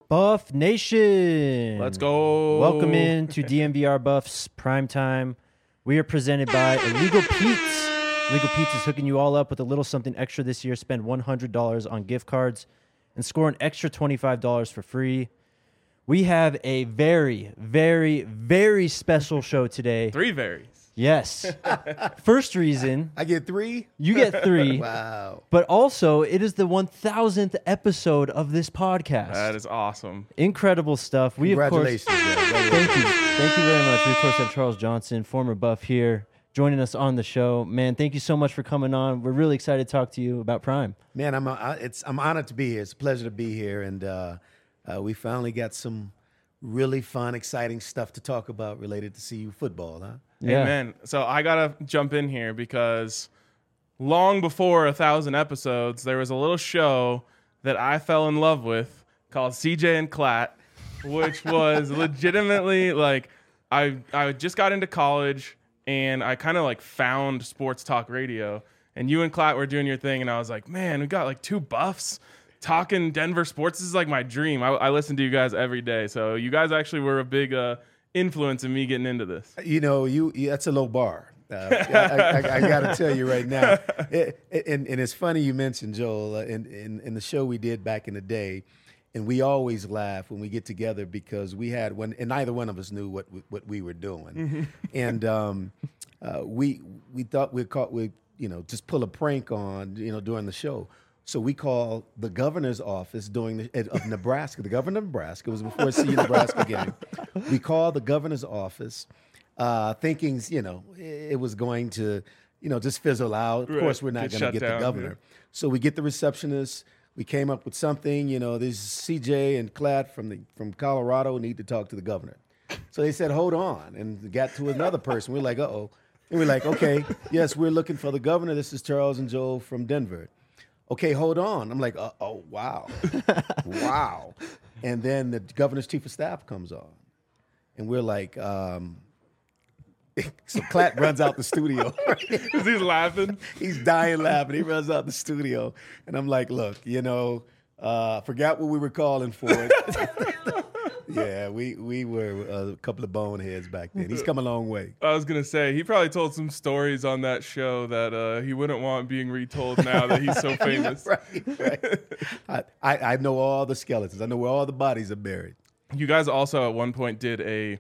Buff Nation. Let's go. Welcome in to DMVR Buffs Primetime. We are presented by Illegal Pete's. Illegal Pete's is hooking you all up with a little something extra this year. Spend $100 on gift cards and score an extra $25 for free. We have a very, very, very special show today. 3 varies. Yes. First reason, I get 3? you get 3. Wow. But also, it is the 1000th episode of this podcast. That is awesome. Incredible stuff. We, of course, Congratulations, man. thank you. Thank you very much. We, of course, have Charles Johnson, former Buff here, joining us on the show. Man, thank you so much for coming on. We're really excited to talk to you about Prime. Man, I'm honored to be here. It's a pleasure to be here, and we finally got some really fun, exciting stuff to talk about related to CU football, huh? Yeah. Amen. So I got to jump in here because long before 1,000 episodes, there was a little show that I fell in love with called CJ and Klatt, which was legitimately like I just got into college and I kind of like found sports talk radio, and you and Klatt were doing your thing, and I was like, man, we got like 2 buffs talking Denver sports. This is like my dream. I listen to you guys every day. So you guys actually were a big influence in me getting into this. You know, that's a low bar. I got to tell you right now. And it's funny you mentioned, Joel, in the show we did back in the day, and we always laugh when we get together because we had one, and neither one of us knew what we were doing. And we thought we'd just pull a prank on, during the show. So we called the governor's office of Nebraska. The governor of Nebraska, it was before CU Nebraska game. We called the governor's office, thinking, it was going to, just fizzle out. Of course, we're not going to get the governor. Yeah. So we get the receptionist. We came up with something. This CJ and Klatt from Colorado need to talk to the governor. So they said, hold on, and got to another person. We're like, uh-oh. And we're like, okay, yes, we're looking for the governor. This is Charles and Joel from Denver. Okay, hold on. I'm like, oh, wow. Wow. And then the governor's chief of staff comes on. And we're like, so Klatt runs out the studio. He's laughing. He's dying laughing. He runs out the studio. And I'm like, look, forgot what we were calling for. Yeah, we were a couple of boneheads back then. He's come a long way. I was going to say, he probably told some stories on that show that he wouldn't want being retold now that he's so famous. Right. I know all the skeletons. I know where all the bodies are buried. You guys also at one point did a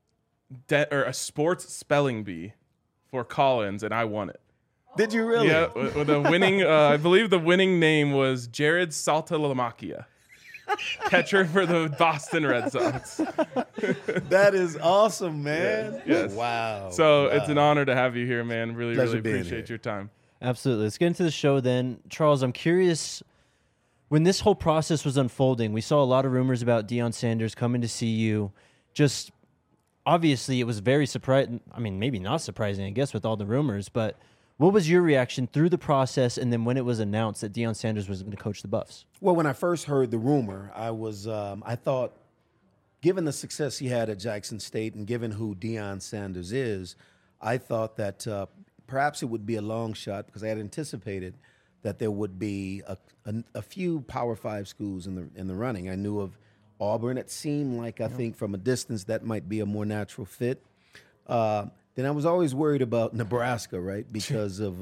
sports spelling bee for Collins, and I won it. Did you really? Yeah, with a winning, I believe the winning name was Jared Saltalamacchia. Catcher for the Boston Red Sox. That is awesome, man. Yes. Wow. So it's an honor to have you here, man. Really appreciate your time. Absolutely. Let's get into the show then. Charles, I'm curious, when this whole process was unfolding, we saw a lot of rumors about Deion Sanders coming to see you. Just obviously it was very surprising. I mean, maybe not surprising, I guess, with all the rumors, but what was your reaction through the process and then when it was announced that Deion Sanders was going to coach the Buffs? Well, when I first heard the rumor, I thought, given the success he had at Jackson State and given who Deion Sanders is, I thought that perhaps it would be a long shot because I had anticipated that there would be a few Power 5 schools in the running. I knew of Auburn. It seemed like, I think, from a distance, that might be a more natural fit. Then I was always worried about Nebraska, right? Because of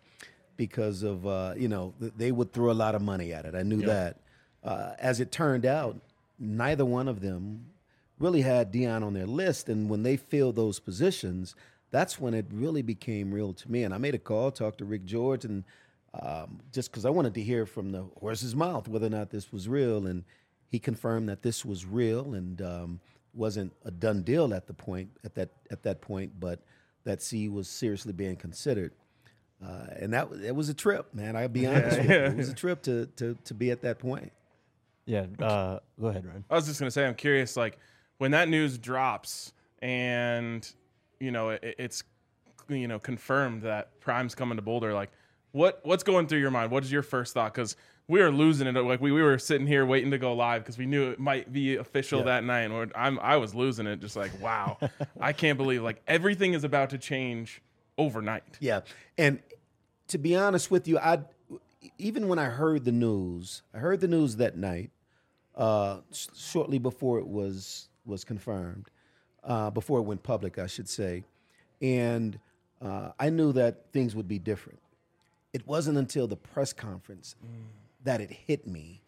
they would throw a lot of money at it. I knew that. As it turned out, neither one of them really had Deion on their list. And when they filled those positions, that's when it really became real to me. And I made a call, talked to Rick George, and just because I wanted to hear from the horse's mouth whether or not this was real. And he confirmed that this was real and wasn't a done deal at that point, but that CU was seriously being considered. And it was a trip, man. I'll be honest with you. It was a trip to be at that point. Yeah. Go ahead, Ryan. I was just going to say, I'm curious, like, when that news drops and, it's, confirmed that Prime's coming to Boulder, like, what's going through your mind? What is your first thought? Because we were losing it. Like, we were sitting here waiting to go live because we knew it might be official that night. And I was losing it, just like, wow, I can't believe, like, everything is about to change overnight. Yeah. And to be honest with you, even when I heard the news that night, shortly before it was confirmed, before it went public, I should say. And I knew that things would be different. It wasn't until the press conference that it hit me.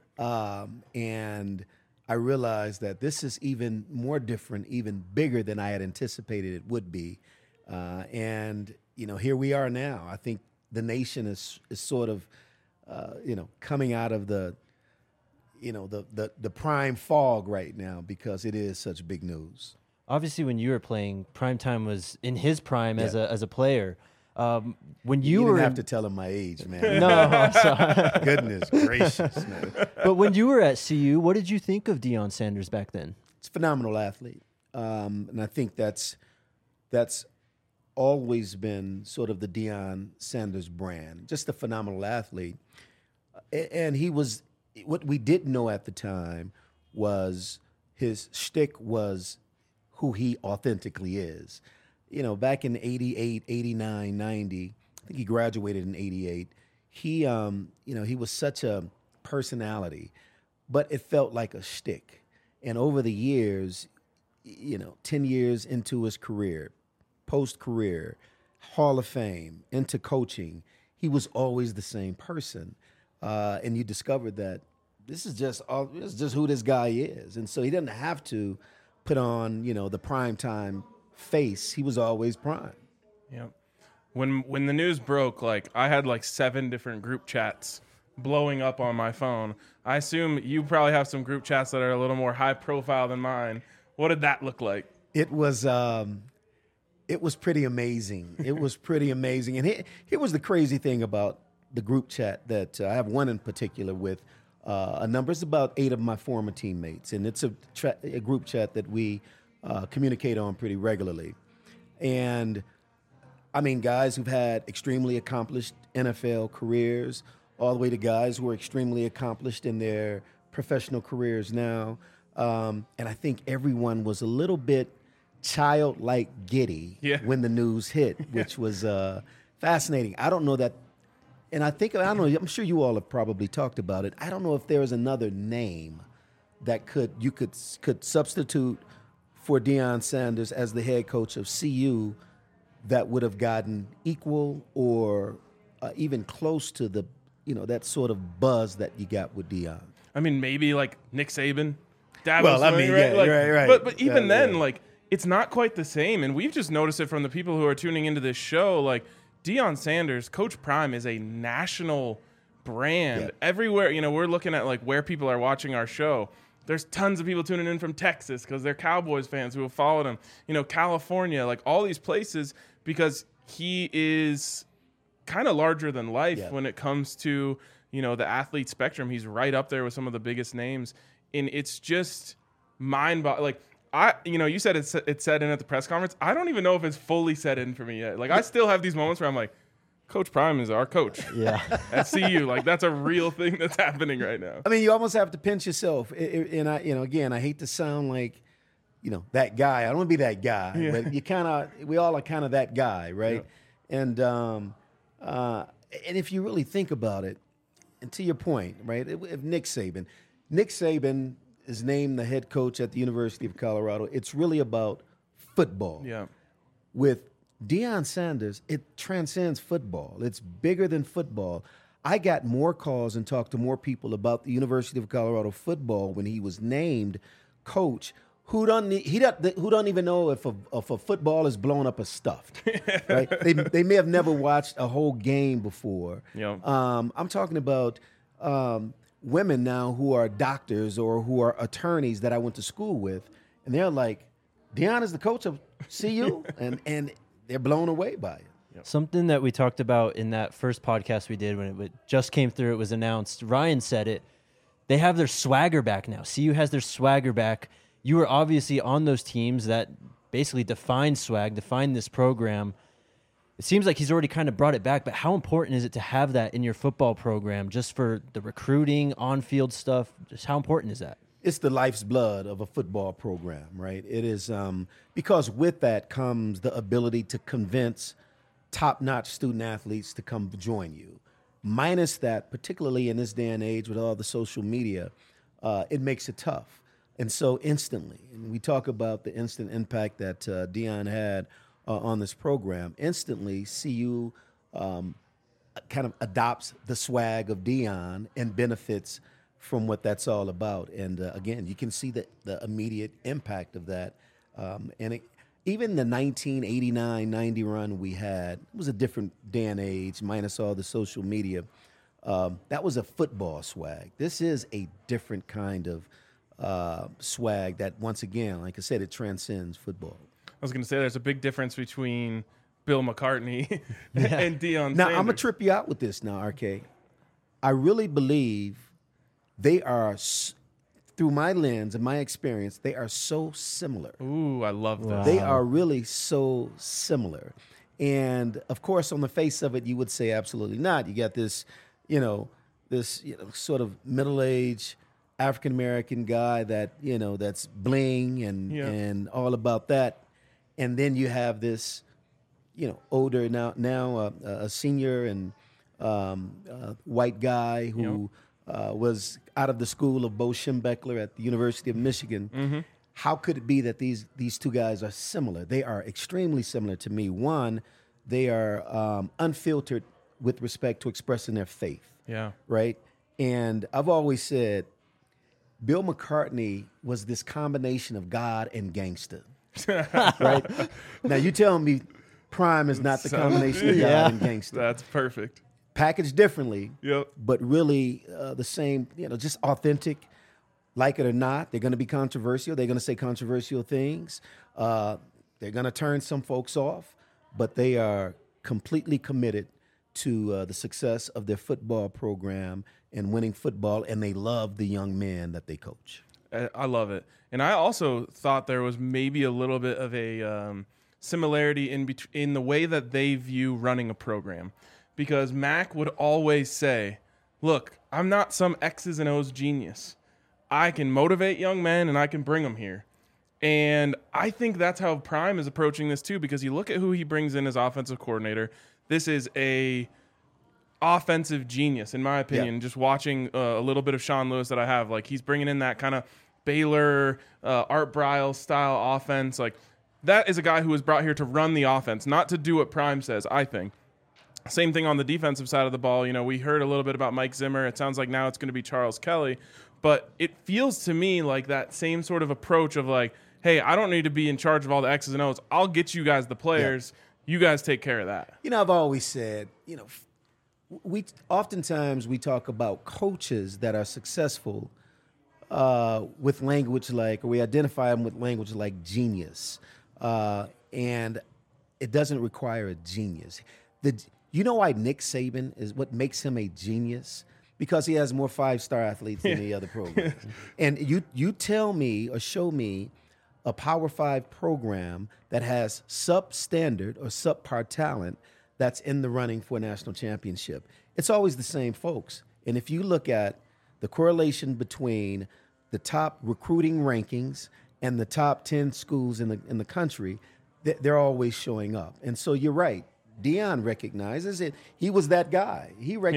And I realized that this is even more different, even bigger than I had anticipated it would be. And, here we are now. I think the nation is sort of, coming out of the prime fog right now because it is such big news. Obviously, when you were playing, Primetime was in his prime as a player. When you didn't were have to tell him my age, man. No, I'm sorry. Goodness gracious, man. But when you were at CU, what did you think of Deion Sanders back then? It's a phenomenal athlete, and I think that's always been sort of the Deion Sanders brand. Just a phenomenal athlete, and he was. What we didn't know at the time was his shtick was who he authentically is. Back in 88, 89, 90, I think he graduated in 88. He was such a personality, but it felt like a shtick. And over the years, 10 years into his career, post-career, Hall of Fame, into coaching, he was always the same person. And you discovered that this is just who this guy is. And so he doesn't have to put on, the primetime face. He was always prime. Yeah. When the news broke, I had 7 different group chats blowing up on my phone. I assume you probably have some group chats that are a little more high profile than mine. What did that look like? It was pretty amazing. It was pretty amazing. And here was the crazy thing about the group chat that I have one in particular with a number. It's about 8 of my former teammates, and it's a group chat that we communicate on pretty regularly. And I mean, guys who've had extremely accomplished NFL careers, all the way to guys who are extremely accomplished in their professional careers now. And I think everyone was a little bit childlike giddy when the news hit, which was fascinating. I don't know that, and I'm sure you all have probably talked about it. I don't know if there is another name that you could substitute for Deion Sanders as the head coach of CU that would have gotten equal or even close to the that sort of buzz that you got with Deion. I mean, maybe Nick Saban. Right? Right. But even then, it's not quite the same. And we've just noticed it from the people who are tuning into this show. Deion Sanders, Coach Prime, is a national brand. Yep. Everywhere, we're looking at where people are watching our show. There's tons of people tuning in from Texas because they're Cowboys fans who have followed him. California, all these places, because he is kind of larger than life when it comes to, the athlete spectrum. He's right up there with some of the biggest names. And it's just mind-boggling. You said it set in at the press conference. I don't even know if it's fully set in for me yet. I still have these moments where I'm like, Coach Prime is our coach. Yeah. At CU. That's a real thing that's happening right now. I mean, you almost have to pinch yourself. And again, I hate to sound like, that guy. I don't want to be that guy, but we all are kind of that guy, right? Yeah. And if you really think about it, and to your point, right, if Nick Saban is named the head coach at the University of Colorado, it's really about football. Yeah. With Deion Sanders, it transcends football. It's bigger than football. I got more calls and talked to more people about the University of Colorado football when he was named coach who don't even know if a football is blown up or stuffed. Right? They may have never watched a whole game before. Yeah. I'm talking about women now who are doctors or who are attorneys that I went to school with, and they're like, Deion is the coach of CU, and they're blown away by it. Yep. Something that we talked about in that first podcast we did when it just came through, it was announced, Ryan said it, they have their swagger back now. CU has their swagger back. You were obviously on those teams that basically define this program. It seems like he's already kind of brought it back, but how important is it to have that in your football program just for the recruiting, on-field stuff? Just how important is that? It's the life's blood of a football program, right? It is because with that comes the ability to convince top-notch student athletes to come join you. Minus that, particularly in this day and age with all the social media, it makes it tough. And so instantly, and we talk about the instant impact that Deion had on this program, instantly CU kind of adopts the swag of Deion and benefits from what that's all about. And again, you can see the immediate impact of that. Even the 1989-90 run we had, it was a different day and age, minus all the social media. That was a football swag. This is a different kind of swag that, once again, like I said, it transcends football. I was going to say there's a big difference between Bill McCartney and Deion Now, Sanders. I'm going to trip you out with this now, RK. I really believe they are, through my lens and my experience, they are so similar. Ooh, I love that. They are really so similar. And, of course, on the face of it, you would say absolutely not. You got this, sort of middle-aged African-American guy that, that's bling and all about that. And then you have this, older now a senior and white guy who was out of the school of Bo Schembechler at the University of Michigan. Mm-hmm. How could it be that these two guys are similar? They are extremely similar to me. One, they are unfiltered with respect to expressing their faith. Yeah. Right? And I've always said Bill McCartney was this combination of God and gangster. Right? Now, you tell me Prime is not the combination of God and gangster. That's perfect. Packaged differently, Yep. but really the same, just authentic. Like it or not, they're going to be controversial. They're going to say controversial things. They're going to turn some folks off, but they are completely committed to the success of their football program and winning football, and they love the young men that they coach. I love it. And I also thought there was maybe a little bit of a similarity in the way that they view running a program. Because Mac would always say, look, I'm not some X's and O's genius. I can motivate young men and I can bring them here. And I think that's how Prime is approaching this too, because you look at who he brings in as offensive coordinator. This is a offensive genius, in my opinion. Yeah. Just watching a little bit of Sean Lewis that I have, like he's bringing in that kind of Baylor, Art Briles style offense. Like that is a guy who was brought here to run the offense, not to do what Prime says, I think. Same thing on the defensive side of the ball. We heard a little bit about Mike Zimmer. It sounds like now it's going to be Charles Kelly. But it feels to me like that same sort of approach of like, hey, I don't need to be in charge of all the X's and O's. I'll get you guys the players. Yeah. You guys take care of that. I've always said, we oftentimes we talk about coaches that are successful with language like, or we identify them with language like genius. And it doesn't require a genius. You know why Nick Saban is what makes him a genius? Because he has more 5-star athletes than any other program. And you tell me or show me a Power 5 program that has substandard or subpar talent that's in the running for a national championship. It's always the same folks. And if you look at the correlation between the top recruiting rankings and the top 10 schools in the country, they're always showing up. And so you're right. Deion recognizes it. He was that guy.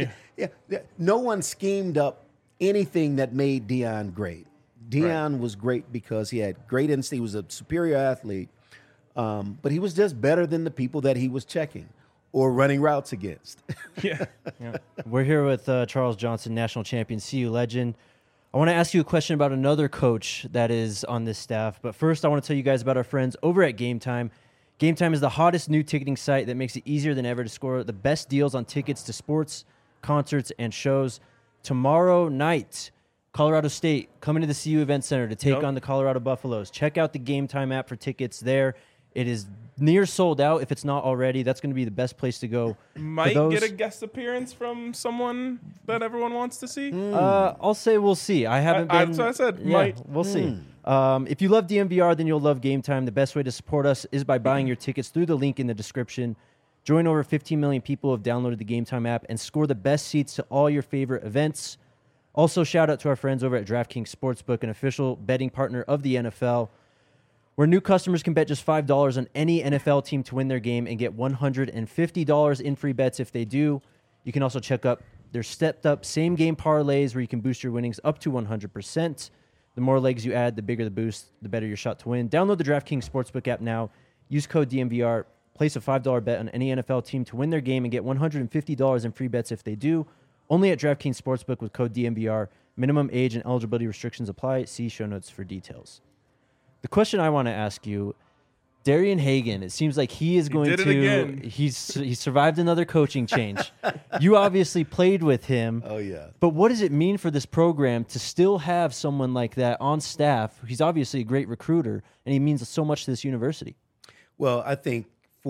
No one schemed up anything that made Deion great. Deion was great because he had great instinct. He was a superior athlete, but he was just better than the people that he was checking or running routes against. Yeah. We're here with Charles Johnson, national champion, CU legend. I want to ask you a question about another coach that is on this staff, but first I want to tell you guys about our friends over at Game Time. Game Time is the hottest new ticketing site that makes it easier than ever to score the best deals on tickets to sports, concerts, and shows. Tomorrow night, Colorado State coming to the CU Event Center to take on the Colorado Buffaloes. Check out the Game Time app for tickets there. It is near sold out if it's not already. That's going to be the best place to go. Might get a guest appearance from someone that everyone wants to see. I'll say we'll see. I haven't been. That's what I said. Might. We'll see. If you love DMVR, then you'll love Game Time. The best way to support us is by buying your tickets through the link in the description. Join over 15 million people who have downloaded the Game Time app and score the best seats to all your favorite events. Also, shout out to our friends over at DraftKings Sportsbook, an official betting partner of the NFL, where new customers can bet just $5 on any NFL team to win their game and get $150 in free bets if they do. You can also check There's stepped up same game parlays where you can boost your winnings up to 100%. The more legs you add, the bigger the boost, the better your shot to win. Download the DraftKings Sportsbook app now. Use code DNVR. Place a $5 bet on any NFL team to win their game and get $150 in free bets if they do. Only at DraftKings Sportsbook with code DNVR. Minimum age and eligibility restrictions apply. See show notes for details. The question I want to ask you, Darian Hagan, it seems like he is going to... He's survived another coaching change. You obviously played with him. Oh, yeah. But what does it mean for this program to still have someone like that on staff? He's obviously a great recruiter, and he means so much to this university. Well, I think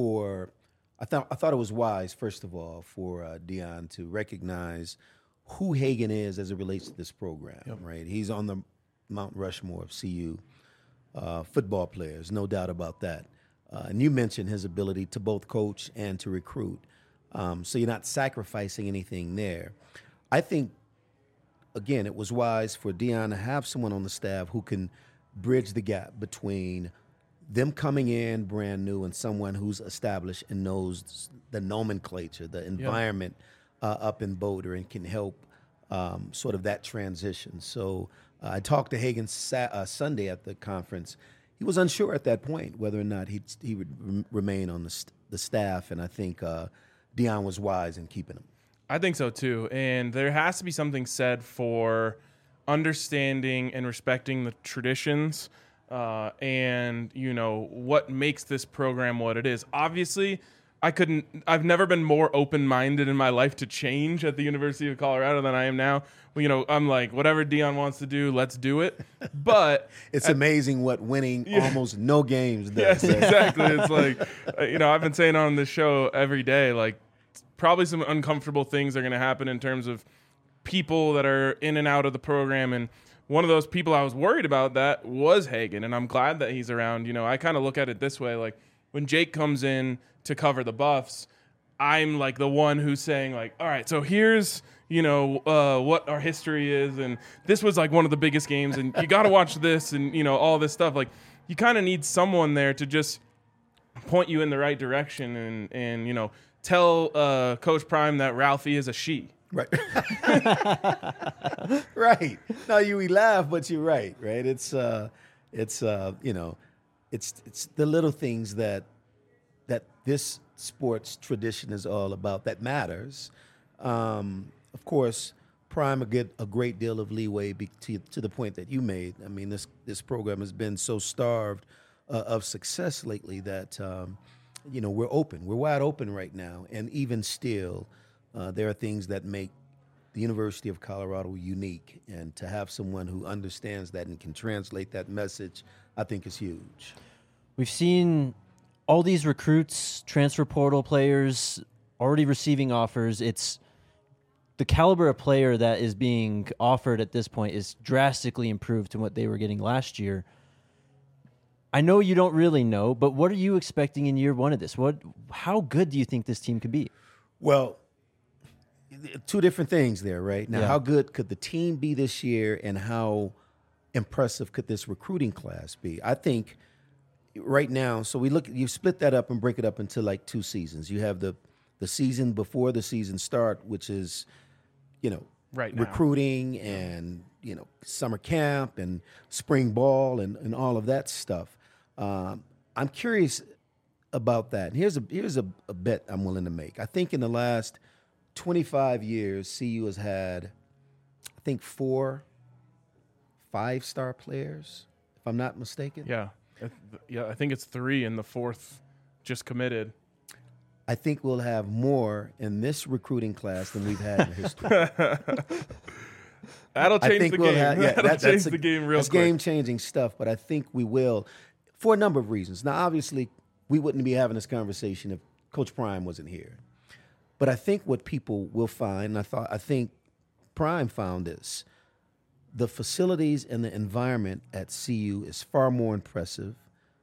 I thought it was wise, first of all, for Deion to recognize who Hagan is as it relates to this program, right? He's on the Mount Rushmore of CU football players, no doubt about that. And you mentioned his ability to both coach and to recruit. So you're not sacrificing anything there. I think, again, it was wise for Deion to have someone on the staff who can bridge the gap between them coming in brand new and someone who's established and knows the nomenclature, the environment up in Boulder, and can help sort of that transition. So I talked to Hagan Sunday at the conference. He was unsure at that point whether or not he would remain on the staff, and I think Deion was wise in keeping him. I think so too, and there has to be something said for understanding and respecting the traditions and what makes this program what it is. Obviously, I've never been more open-minded in my life to change at the University of Colorado than I am now. I'm like, whatever Deion wants to do, let's do it. But it's amazing what winning almost no games does. Yes, exactly. It's like, I've been saying on this show every day, like, probably some uncomfortable things are going to happen in terms of people that are in and out of the program. And one of those people I was worried about that was Hagan, and I'm glad that he's around. I kind of look at it this way, like, when Jake comes in to cover the Buffs, I'm like the one who's saying, like, all right, so here's what our history is, and this was like one of the biggest games, and you got to watch this, and all this stuff. Like, you kind of need someone there to just point you in the right direction, and tell Coach Prime that Ralphie is a she. Right. Right. No, we laugh, but you're right. Right. It's the little things that this sports tradition is all about that matters. Of course, Prime get a great deal of leeway to the point that you made. I mean, this program has been so starved of success lately that we're open. We're wide open right now, and even still, there are things that make the University of Colorado unique, and to have someone who understands that and can translate that message, I think is huge. We've seen all these recruits, transfer portal players, already receiving offers. It's the caliber of player that is being offered at this point is drastically improved to what they were getting last year. I know you don't really know, but what are you expecting in year one of this? How good do you think this team could be? Well, two different things there, right? Now, How good could the team be this year, and how impressive could this recruiting class be? I think right now, so you split that up and break it up into like two seasons. You have the season before the season start, which is, right now, recruiting and, summer camp and spring ball and all of that stuff. I'm curious about that. And here's a bet I'm willing to make. I think in the last 25 years, CU has had, I think, 4 5-star players, if I'm not mistaken. Yeah, I think it's 3, and the 4th just committed. I think we'll have more in this recruiting class than we've had in history. That'll change the game. That'll change the game real quick. That's game-changing stuff, but I think we will for a number of reasons. Now, obviously, we wouldn't be having this conversation if Coach Prime wasn't here. But I think what people will find, and I think Prime found this, the facilities and the environment at CU is far more impressive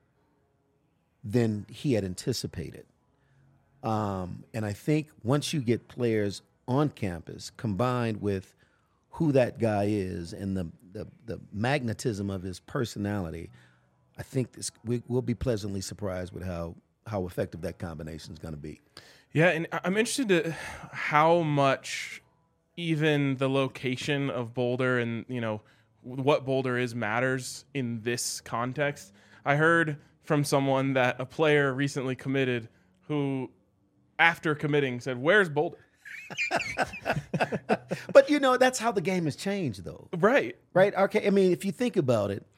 than he had anticipated. And I think once you get players on campus combined with who that guy is and the magnetism of his personality, I think we'll be pleasantly surprised with how effective that combination is going to be. Yeah, and I'm interested in how much even the location of Boulder and, what Boulder is matters in this context. I heard from someone that a player recently committed who, after committing, said, "Where's Boulder?" But that's how the game has changed, though. Right. Right? Okay. I mean, if you think about it,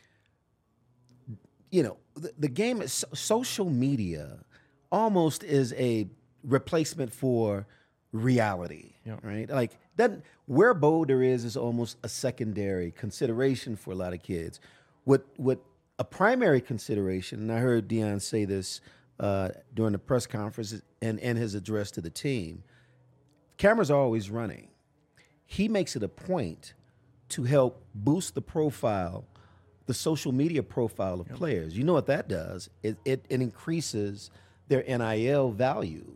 the game is social media almost is a replacement for reality, right? Like where Boulder is almost a secondary consideration for a lot of kids. What a primary consideration, and I heard Deion say this during the press conference and his address to the team, cameras are always running. He makes it a point to help boost the profile, the social media profile of players. You know what that does? It increases their NIL value.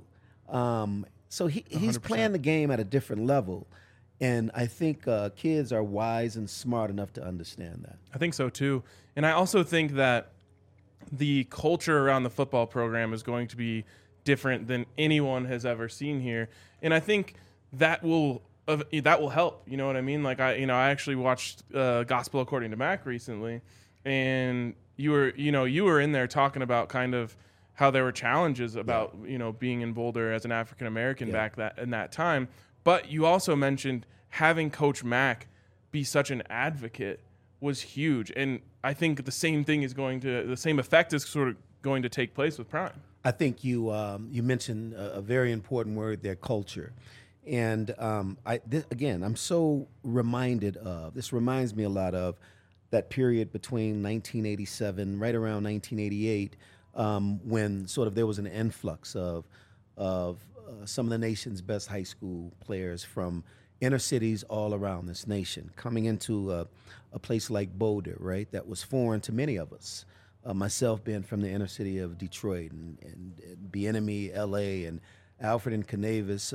So he's 100%. playing the game at a different level. And I think kids are wise and smart enough to understand that. I think so too. And I also think that the culture around the football program is going to be different than anyone has ever seen here. And I think that will help. You know what I mean? Like I actually watched Gospel According to Mac recently, and you were in there talking about kind of how there were challenges about being in Boulder as an African American back in that time. But you also mentioned having Coach Mack be such an advocate was huge, and I think the same effect is sort of going to take place with Prime. I think you mentioned a very important word there, culture. And I'm so reminded of, this reminds me a lot of that period between 1987, right around 1988, when sort of there was an influx of some of the nation's best high school players from inner cities all around this nation coming into a place like Boulder, right, that was foreign to many of us. Myself being from the inner city of Detroit and Bieniemy, LA, and Alfred and Canavis,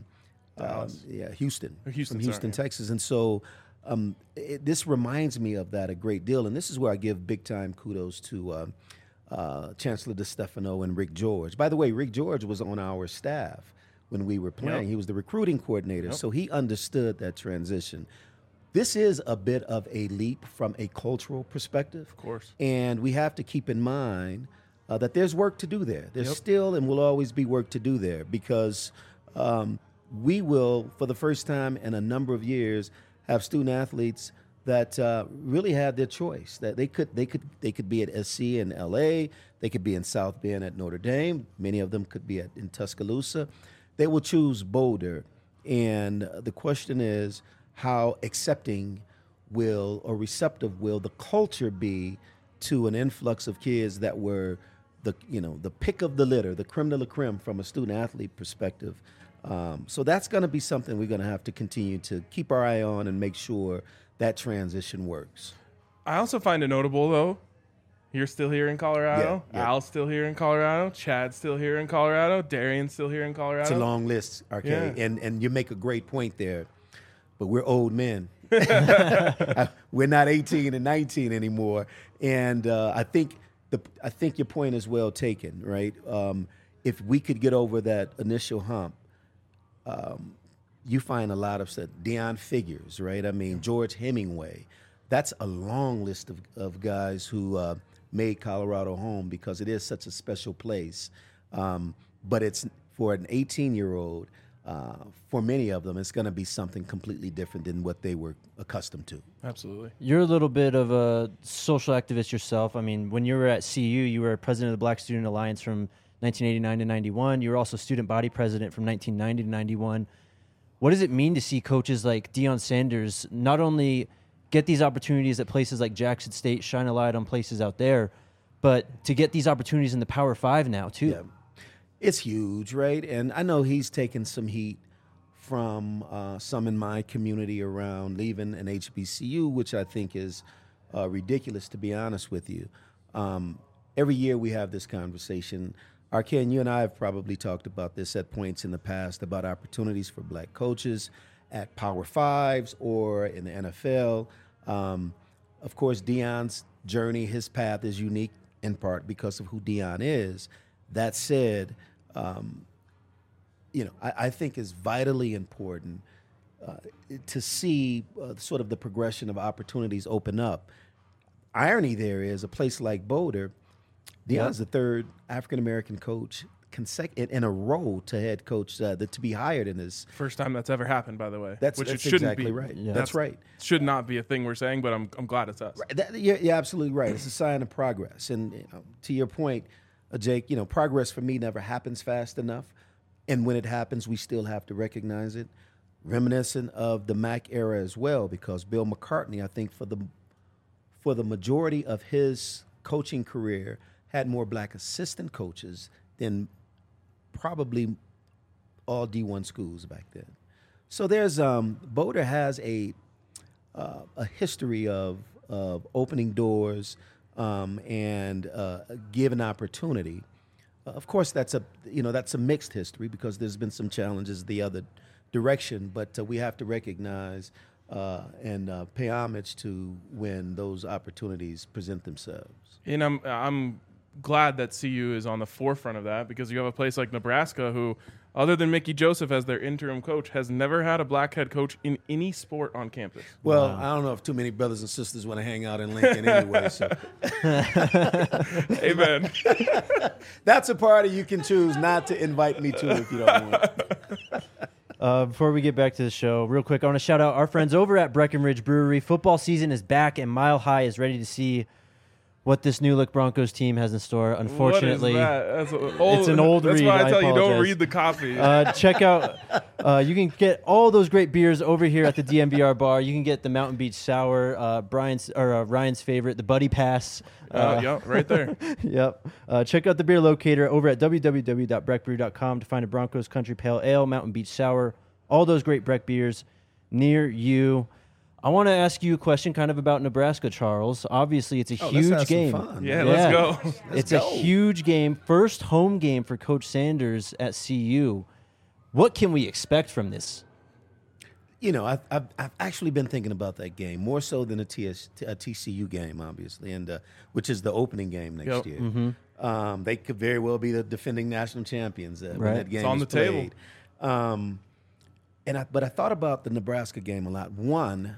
Houston, from Houston, Texas. And so this reminds me of that a great deal. And this is where I give big time kudos to Chancellor DeStefano and Rick George. By the way, Rick George was on our staff when we were playing. Yep. He was the recruiting coordinator, so he understood that transition. This is a bit of a leap from a cultural perspective. Of course. And we have to keep in mind that there's work to do there. There's still and will always be work to do there because we will, for the first time in a number of years, have student athletes that really had their choice. That they could be at SC in LA, they could be in South Bend at Notre Dame. Many of them could be in Tuscaloosa. They will choose Boulder, and the question is, how accepting or receptive will the culture be to an influx of kids that were the pick of the litter, the creme de la creme from a student athlete perspective. So that's going to be something we're going to have to continue to keep our eye on and make sure that transition works. I also find it notable, though, you're still here in Colorado. Yeah. Al's still here in Colorado. Chad's still here in Colorado. Darian's still here in Colorado. It's a long list, RK. Yeah. And you make a great point there. But we're old men. We're not 18 and 19 anymore. And I think your point is well taken, right? If we could get over that initial hump, you find a lot of stuff. Deion Figures, right? I mean, George Hemingway. That's a long list of guys who made Colorado home because it is such a special place. But it's for an 18-year-old, for many of them, it's going to be something completely different than what they were accustomed to. Absolutely. You're a little bit of a social activist yourself. I mean, when you were at CU, you were president of the Black Student Alliance from 1989 to 91. You were also student body president from 1990 to 91. What does it mean to see coaches like Deion Sanders not only get these opportunities at places like Jackson State, shine a light on places out there, but to get these opportunities in the Power 5 now, too? Yeah. It's huge, right? And I know he's taken some heat from some in my community around leaving an HBCU, which I think is ridiculous, to be honest with you. Every year we have this conversation. Arken, you and I have probably talked about this at points in the past about opportunities for black coaches at Power 5s or in the NFL. Of course, Deion's journey, his path is unique in part because of who Deion is. That said, I think it's vitally important to see sort of the progression of opportunities open up. Irony there is a place like Boulder, Deion's the third African American coach in a row to head coach to be hired in this. First time that's ever happened, by the way. That's it shouldn't exactly be. right. Yeah. That's right. Should not be a thing we're saying, but I'm glad it's us. You're absolutely right. It's a sign of progress. And to your point, Jake, progress for me never happens fast enough. And when it happens, we still have to recognize it. Reminiscent of the Mac era as well, because Bill McCartney, I think for the majority of his coaching career, had more black assistant coaches than probably all D1 schools back then. So there's Boulder has a history of opening doors and giving opportunity. Of course, that's a mixed history because there's been some challenges the other direction, but we have to recognize and pay homage to when those opportunities present themselves. And I'm glad that CU is on the forefront of that, because you have a place like Nebraska who, other than Mickey Joseph as their interim coach, has never had a black head coach in any sport on campus. Well, I don't know if too many brothers and sisters want to hang out in Lincoln anyway. So. Amen. That's a party you can choose not to invite me to if you don't want. Before we get back to the show, real quick, I want to shout out our friends over at Breckenridge Brewery. Football season is back, and Mile High is ready to see what this new look Broncos team has in store. Unfortunately, That's it's an old That's read. why I tell you, don't apologize. read the copy. Check out. You can get all those great beers over here at the DMVR bar. You can get the Mountain Beach Sour, Ryan's favorite, the Buddy Pass. Yeah, right there. Yep. Check out the beer locator over at www.breckbrew.com to find a Broncos Country Pale Ale, Mountain Beach Sour, all those great Breck beers near you. I want to ask you a question kind of about Nebraska, Charles. Obviously, it's a huge game. Yeah, let's go. It's a huge game. First home game for Coach Sanders at CU. What can we expect from this? I've actually been thinking about that game more so than a TCU game, obviously, and which is the opening game next year. Mm-hmm. They could very well be the defending national champions when that game It's on is the table. played. But I thought about the Nebraska game a lot. One,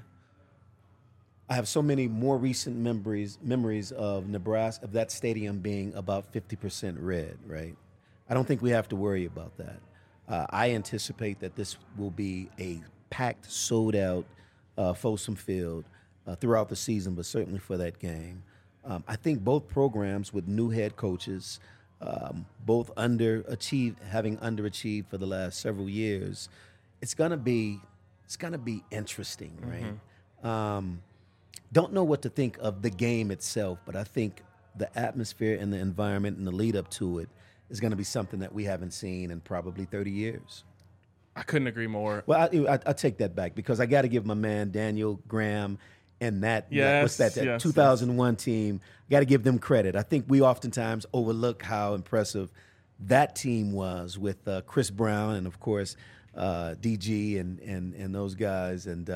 I have so many more recent memories of Nebraska, of that stadium being about 50% red, right? I don't think we have to worry about that. I anticipate that this will be a packed, sold-out Folsom Field throughout the season, but certainly for that game. I think both programs with new head coaches, both having underachieved for the last several years, it's gonna be interesting, right? Don't know what to think of the game itself, but I think the atmosphere and the environment and the lead up to it is going to be something that we haven't seen in probably 30 years. I couldn't agree more. Well, I take that back because I got to give my man Daniel Graham and that 2001 team, got to give them credit. I think we oftentimes overlook how impressive that team was with Chris Brown and, of course, DG and those guys and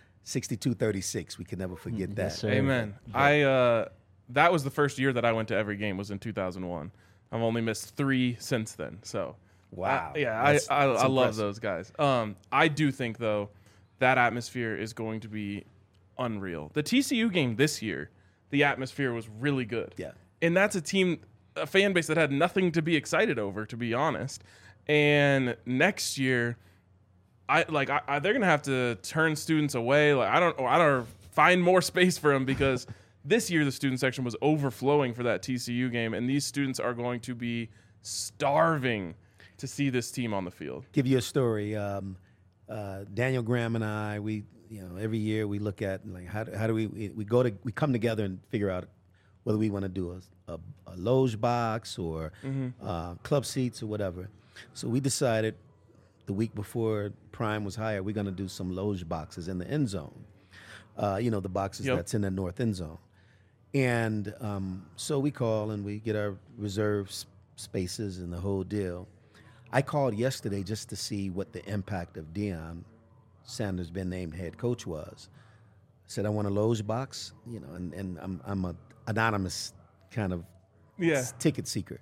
62-36. We can never forget that. Yes, sir. Amen. That was the first year that I went to every game, was in 2001. I've only missed 3 since then. So, wow. I love those guys. I do think, though, that atmosphere is going to be unreal. The TCU game this year, the atmosphere was really good. Yeah. And that's a fan base that had nothing to be excited over, to be honest. And next year, they're gonna have to turn students away. I don't find more space for them because this year the student section was overflowing for that TCU game, and these students are going to be starving to see this team on the field. Give you a story. Daniel Graham and I, every year we look at how do we come together and figure out whether we want to do a loge box or club seats or whatever. So we decided the week before Prime was hired, we're going to do some loge boxes in the end zone. The boxes that's in the north end zone. And so we call and we get our reserve spaces and the whole deal. I called yesterday just to see what the impact of Deion Sanders being named head coach was. I said, I want a loge box, and I'm an anonymous kind of ticket seeker.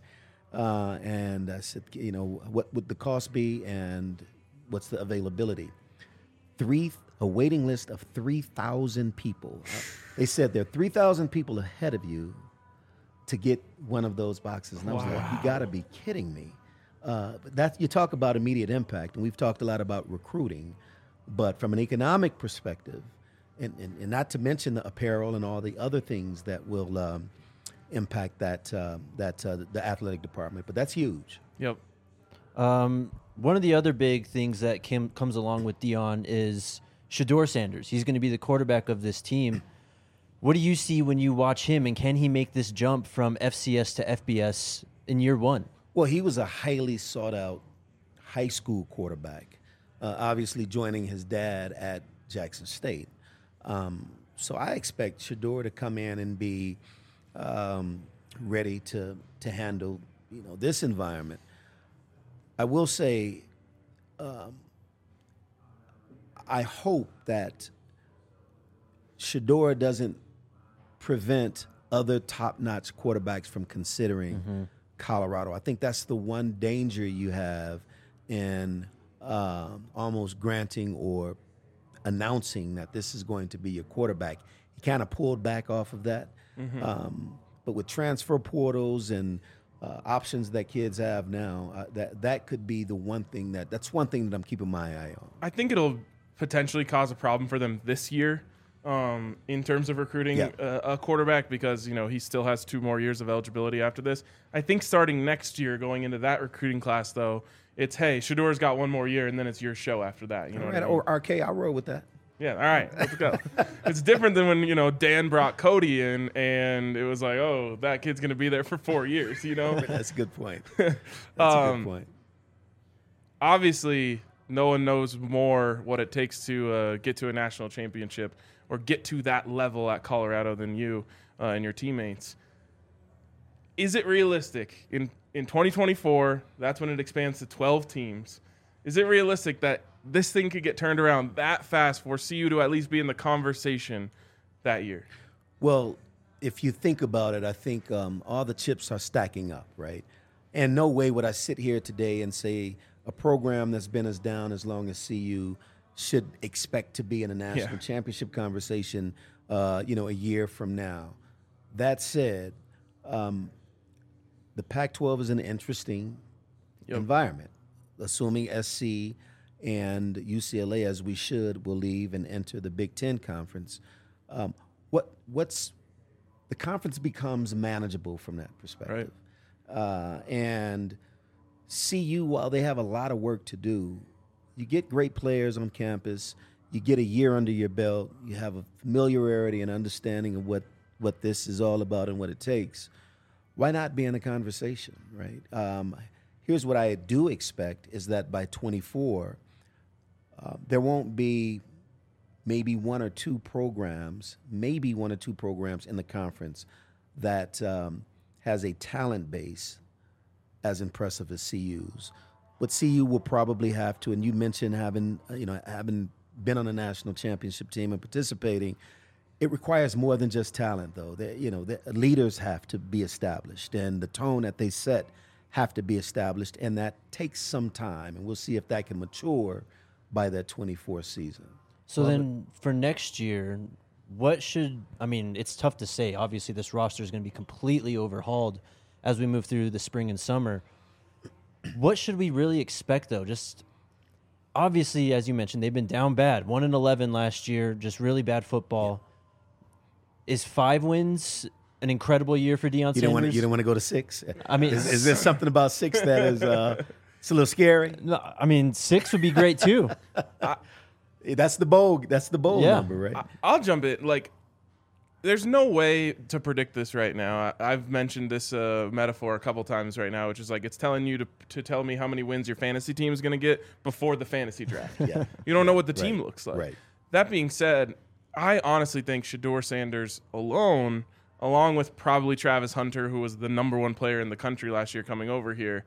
And I said, what would the cost be and what's the availability? a waiting list of 3,000 people. They said there are 3,000 people ahead of you to get one of those boxes. And I was like, you got to be kidding me. But that you talk about immediate impact, and we've talked a lot about recruiting, but from an economic perspective, and not to mention the apparel and all the other things that will impact the athletic department, but that's huge. Yep. One of the other big things that comes along with Deion is Shedeur Sanders. He's going to be the quarterback of this team. What do you see when you watch him, and can he make this jump from FCS to FBS in year one? Well, he was a highly sought-out high school quarterback, obviously joining his dad at Jackson State. So I expect Shedeur to come in and be ready to handle this environment. I will say, I hope that Shedeur doesn't prevent other top-notch quarterbacks from considering Colorado. I think that's the one danger you have in almost granting or announcing that this is going to be your quarterback. He kind of pulled back off of that. But with transfer portals and options that kids have now, that could be the one thing that's one thing that I'm keeping my eye on. I think it'll potentially cause a problem for them this year in terms of recruiting a quarterback, because he still has 2 more years of eligibility after this. I think starting next year, going into that recruiting class, though, it's, hey, Shedeur's got 1 more year, and then it's your show after that. You know what I mean? Or RK, I'll roll with that. Yeah, all right, let's go. It's different than when, Dan brought Cody in, and it was like, oh, that kid's going to be there for 4 years, That's a good point. That's a good point. Obviously, no one knows more what it takes to get to a national championship or get to that level at Colorado than you and your teammates. Is it realistic in 2024, that's when it expands to 12 teams, is it realistic that this thing could get turned around that fast for CU to at least be in the conversation that year? Well, if you think about it, I think all the chips are stacking up, right? And no way would I sit here today and say a program that's been as down as long as CU should expect to be in a national championship conversation, a year from now. That said, the Pac-12 is an interesting environment, assuming SC and UCLA, as we should, will leave and enter the Big Ten Conference. The conference becomes manageable from that perspective. Right. And CU, while they have a lot of work to do, you get great players on campus, you get a year under your belt, you have a familiarity and understanding of what this is all about and what it takes. Why not be in the conversation, right? Here's what I do expect is that by 24, there won't be maybe 1 or 2 programs in the conference that has a talent base as impressive as CU's. What CU will probably have to, and you mentioned having been on a national championship team and participating, it requires more than just talent, though. The leaders have to be established, and the tone that they set have to be established, and that takes some time, and we'll see if that can mature by that 24 season. So then for next year, it's tough to say. Obviously, this roster is going to be completely overhauled as we move through the spring and summer. What should we really expect, though? Just obviously, as you mentioned, they've been down bad. 1-11 last year, just really bad football. Yeah. Is 5 wins an incredible year for Deion Sanders? You don't want to go to 6? I mean, is there something about 6 that is it's a little scary? No, 6 would be great too. That's the bowl number, right? I'll jump in. There's no way to predict this right now. I've mentioned this metaphor a couple times right now, which is it's telling you to tell me how many wins your fantasy team is going to get before the fantasy draft. Yeah. You don't know what the team looks like. Right. That being said, I honestly think Shedeur Sanders alone, along with probably Travis Hunter, who was the number 1 player in the country last year coming over here,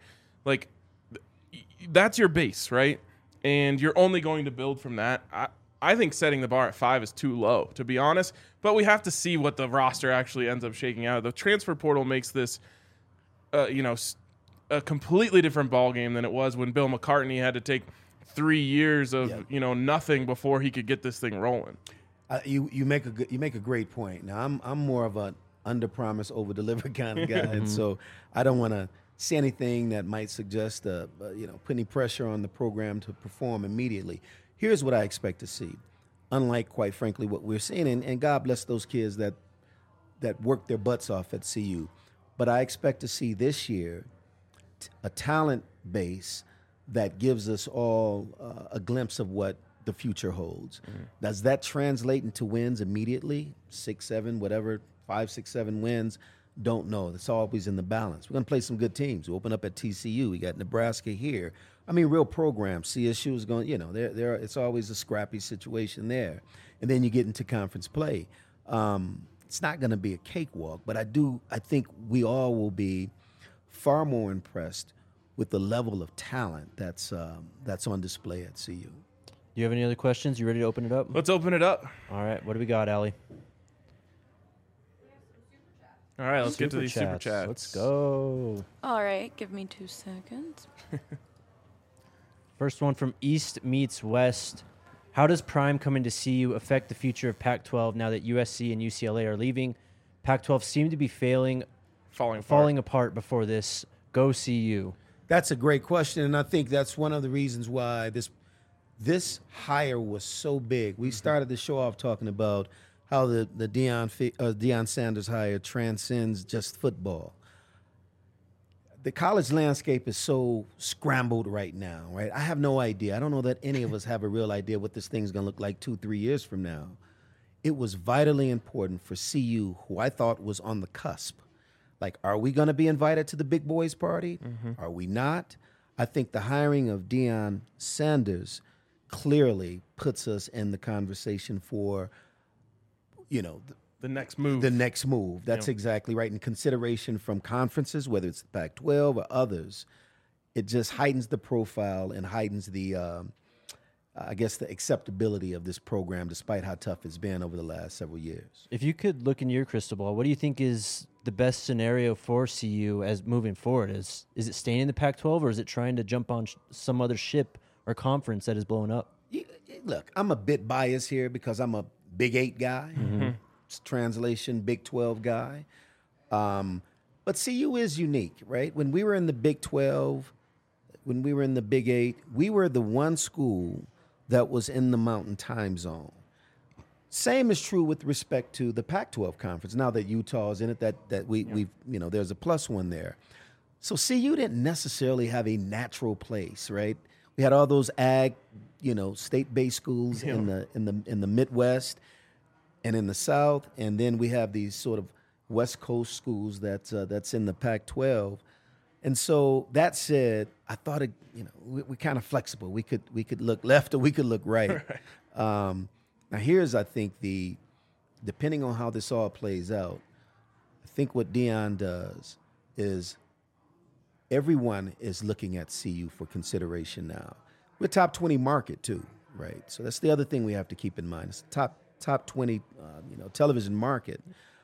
that's your base, right? And you're only going to build from that. I think setting the bar at 5 is too low, to be honest. But we have to see what the roster actually ends up shaking out. The transfer portal makes this, a completely different ballgame than it was when Bill McCartney had to take 3 years of nothing before he could get this thing rolling. You make a great point. Now I'm more of an under promise over deliver kind of guy, and so I don't want to say anything that might suggest put any pressure on the program to perform immediately. Here's what I expect to see, unlike quite frankly what we're seeing, and God bless those kids that work their butts off at CU, but I expect to see this year a talent base that gives us all a glimpse of what the future holds. Does that translate into wins immediately? 6, 7, whatever, 5, 6, 7 wins? Don't know. It's always in the balance. We're going to play some good teams. We open up at TCU. We got Nebraska here. I mean, real programs. CSU is going, it's always a scrappy situation there. And then you get into conference play. It's not going to be a cakewalk, but I think we all will be far more impressed with the level of talent that's on display at CU. Do you have any other questions? You ready to open it up? Let's open it up. All right. What do we got, Allie? All right, let's get to these super chats. Let's go. All right, give me 2 seconds. First one from East Meets West. How does Prime coming to CU affect the future of Pac-12 now that USC and UCLA are leaving? Pac-12 seem to be falling apart before this. Go CU. That's a great question, and I think that's one of the reasons why this hire was so big. We started the show off talking about how the Deion Sanders hire transcends just football. The college landscape is so scrambled right now, right? I have no idea. I don't know that any of us have a real idea what this thing's going to look like 2-3 years from now. It was vitally important for CU, who I thought was on the cusp. Like, are we going to be invited to the big boys party? Are we not? I think the hiring of Deion Sanders clearly puts us in the conversation for, the next move. The next move. That's exactly right. In consideration from conferences, whether it's the Pac-12 or others, it just heightens the profile and heightens the, the acceptability of this program, despite how tough it's been over the last several years. If you could look in your crystal ball, what do you think is the best scenario for CU as moving forward? Is it staying in the Pac-12, or is it trying to jump on some other ship or conference that is blowing up? Look, I'm a bit biased here because I'm a Big 8 guy. Translation, Big 12 guy. But CU is unique, right? When we were in the Big 12, when we were in the Big 8, we were the one school that was in the Mountain Time Zone. Same is true with respect to the Pac-12 conference. Now that Utah is in it, we've there's a plus one there. So CU didn't necessarily have a natural place, right? We had all those state-based schools in the Midwest and in the South, and then we have these sort of West Coast schools that's in the Pac-12. And so that said, I thought we're kind of flexible. We could look left or we could look right. Now here's, I think, depending on how this all plays out, I think what Deion does is everyone is looking at CU for consideration now. We're a top 20 market too, right? So that's the other thing we have to keep in mind. It's a top 20 television market.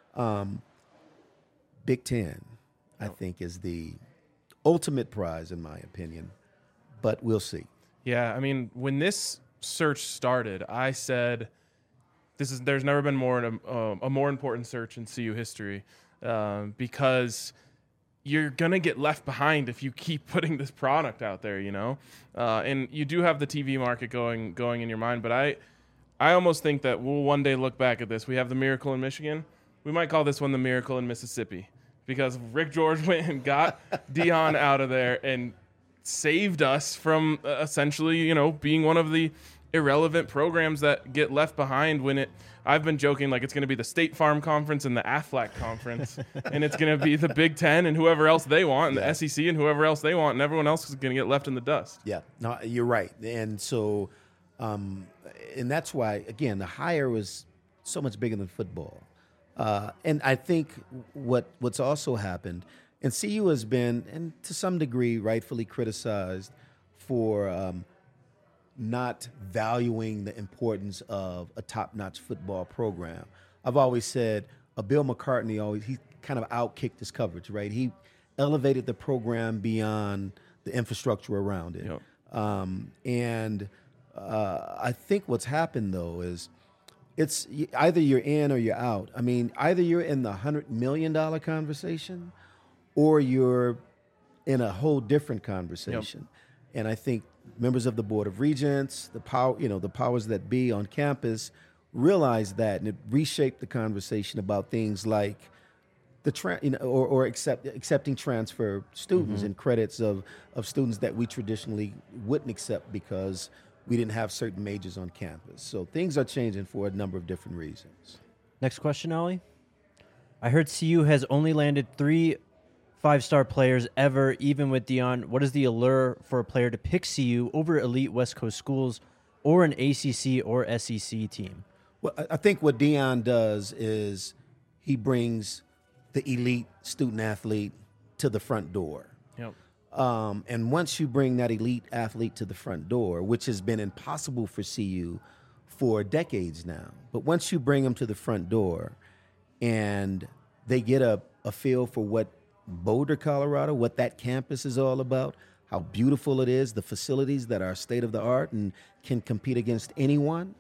Big Ten, I think, is the ultimate prize in my opinion, but we'll see. Yeah, I mean, when this search started, I said there's never been a more important search in CU history, because you're gonna get left behind if you keep putting this product out there, and you do have the TV market going in your mind, but I almost think that we'll one day look back at this. We have the Miracle in Michigan. We might call this one the Miracle in Mississippi, because Rick George went and got Deion out of there and saved us from essentially, being one of the irrelevant programs that get left behind I've been joking like it's going to be the State Farm Conference and the Aflac Conference, and it's going to be the Big Ten and whoever else they want, and the SEC and whoever else they want, and everyone else is going to get left in the dust. Yeah, no, you're right. And so, and that's why, again, the hire was so much bigger than football. And I think what's also happened, and CU has been, and to some degree, rightfully criticized for not valuing the importance of a top-notch football program. I've always said Bill McCartney he kind of outkicked his coverage, right? He elevated the program beyond the infrastructure around it. And I think what's happened, though, is it's either you're in or you're out. I mean, either you're in the $100 million conversation or you're in a whole different conversation. And I think members of the Board of Regents, the powers that be on campus realized that, and it reshaped the conversation about things like accepting transfer students and credits of students that we traditionally wouldn't accept because we didn't have certain majors on campus. So things are changing for a number of different reasons. Next question, Ollie. I heard CU has only landed 3 5-star players ever, even with Deion. What is the allure for a player to pick CU over elite West Coast schools or an ACC or SEC team? Well, I think what Deion does is he brings the elite student athlete to the front door. Yep. And once you bring that elite athlete to the front door, which has been impossible for CU for decades now, but once you bring them to the front door and they get a feel for what Boulder, Colorado, what that campus is all about, how beautiful it is, the facilities that are state of the art and can compete against anyone,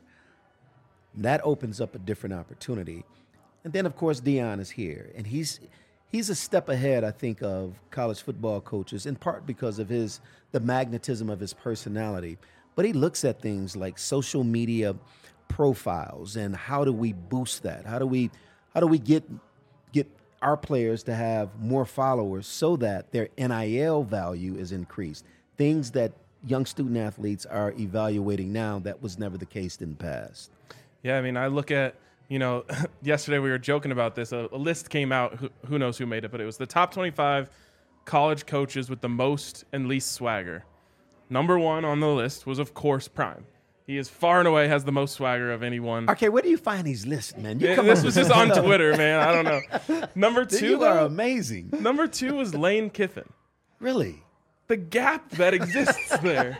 that opens up a different opportunity. And then, of course, Deion is here, and he's a step ahead, I think, of college football coaches, in part because of the magnetism of his personality. But he looks at things like social media profiles and how do we boost that? How do we get our players to have more followers so that their NIL value is increased? Things that young student athletes are evaluating now that was never the case in the past. Yeah, I mean, I look at, yesterday we were joking about this. A list came out, who knows who made it, but it was the top 25 college coaches with the most and least swagger. Number 1 on the list was, of course, Prime. He is far and away has the most swagger of anyone. Okay, where do you find these lists, man? This was just on Twitter, man. I don't know. Number 2, you are amazing. Number 2 was Lane Kiffin. Really? The gap that exists there.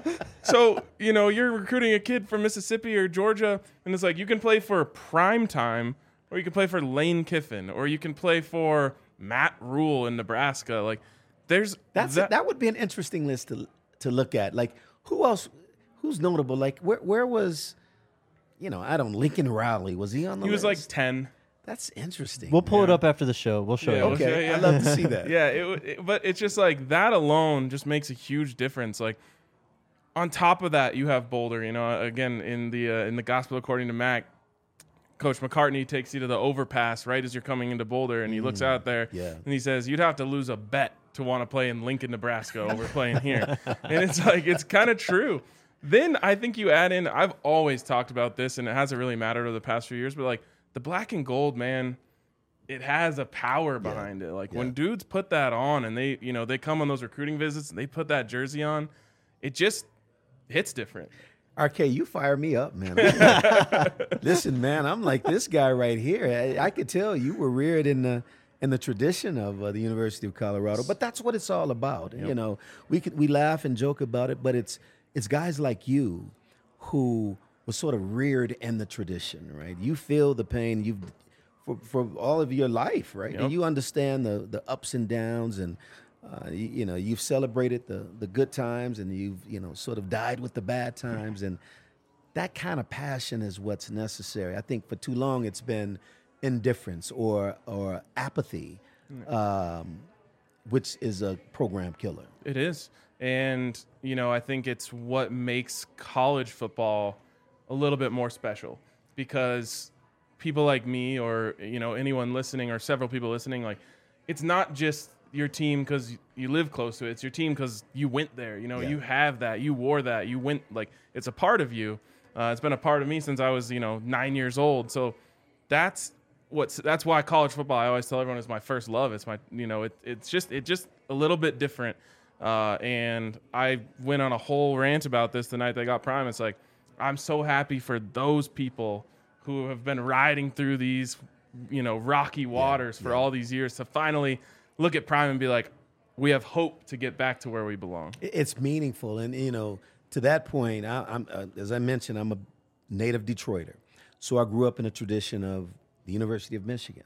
So, you're recruiting a kid from Mississippi or Georgia, and it's like you can play for Prime Time, or you can play for Lane Kiffin, or you can play for Matt Rule in Nebraska. Like, that would be an interesting list to look at. Like, who else? Who's notable? Like, where was, Lincoln Riley? Was he on the list? He was like 10. That's interesting. We'll pull it up after the show. We'll show you. Okay, I'd love to see that. Yeah, but it's just like that alone just makes a huge difference. Like, on top of that, you have Boulder. Again, in the Gospel according to Mac, Coach McCartney takes you to the overpass right as you're coming into Boulder, and he looks out there and he says, "You'd have to lose a bet to want to play in Lincoln, Nebraska over playing here." And it's like, it's kind of true. Then I think you add in, I've always talked about this, and it hasn't really mattered over the past few years, but like the black and gold, man, it has a power behind it. Like when dudes put that on and they come on those recruiting visits and they put that jersey on, it just hits different. RK, you fire me up, man. Listen, man, I'm like this guy right here. I could tell you were reared in the tradition of the University of Colorado, but that's what it's all about. Yep. We laugh and joke about it, but it's guys like you who was sort of reared in the tradition, right? You feel the pain for all of your life, right? Yep. And you understand the ups and downs, and you've celebrated the good times, and you've sort of died with the bad times, and that kind of passion is what's necessary. I think for too long it's been indifference or apathy, which is a program killer. It is. And, I think it's what makes college football a little bit more special, because people like me or, anyone listening or several people listening, like, it's not just your team because you live close to it. It's your team because you went there. You have that. You wore that. You went, like, it's a part of you. It's been a part of me since I was, 9 years old. So that's why college football, I always tell everyone, is my first love. It's my, it's just a little bit different. And I went on a whole rant about this the night they got Prime. It's like, I'm so happy for those people who have been riding through these, rocky waters for all these years to finally look at Prime and be like, we have hope to get back to where we belong. It's meaningful. And, to that point, I'm as I mentioned, I'm a native Detroiter. So I grew up in a tradition of the University of Michigan.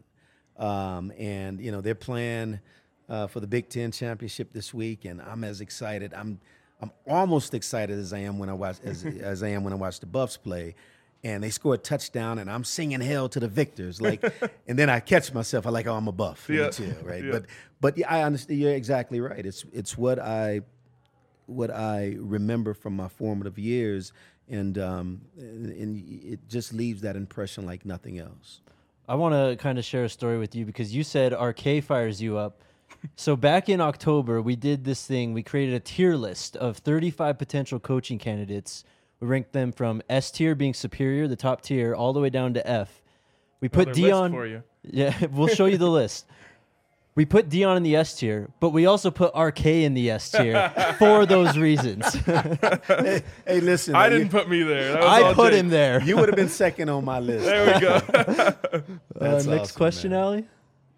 And, they're playing for the Big Ten championship this week, and I'm as excited. I'm I'm almost excited as I am when I watch as I am when I watch the Buffs play, and they score a touchdown, and I'm singing "Hail to the Victors!" Like, and then I catch myself. I like, oh, I'm a Buff, Let me chill, right? Yeah. But yeah, I understand. You're exactly right. It's what I remember from my formative years, and it just leaves that impression like nothing else. I want to kind of share a story with you because you said RK fires you up. So back in October, we did this thing. We created a tier list of 35 potential coaching candidates. We ranked them from S tier being superior, the top tier, all the way down to F. We put Another list Dion for you. Yeah, we'll show you the list. We put Dion in the S tier, but we also put RK in the S tier for those reasons. Hey, listen, I didn't put me there. That was I all put Jake. him there. You would have been second on my list. There we go. That's Next awesome, question, man. Allie.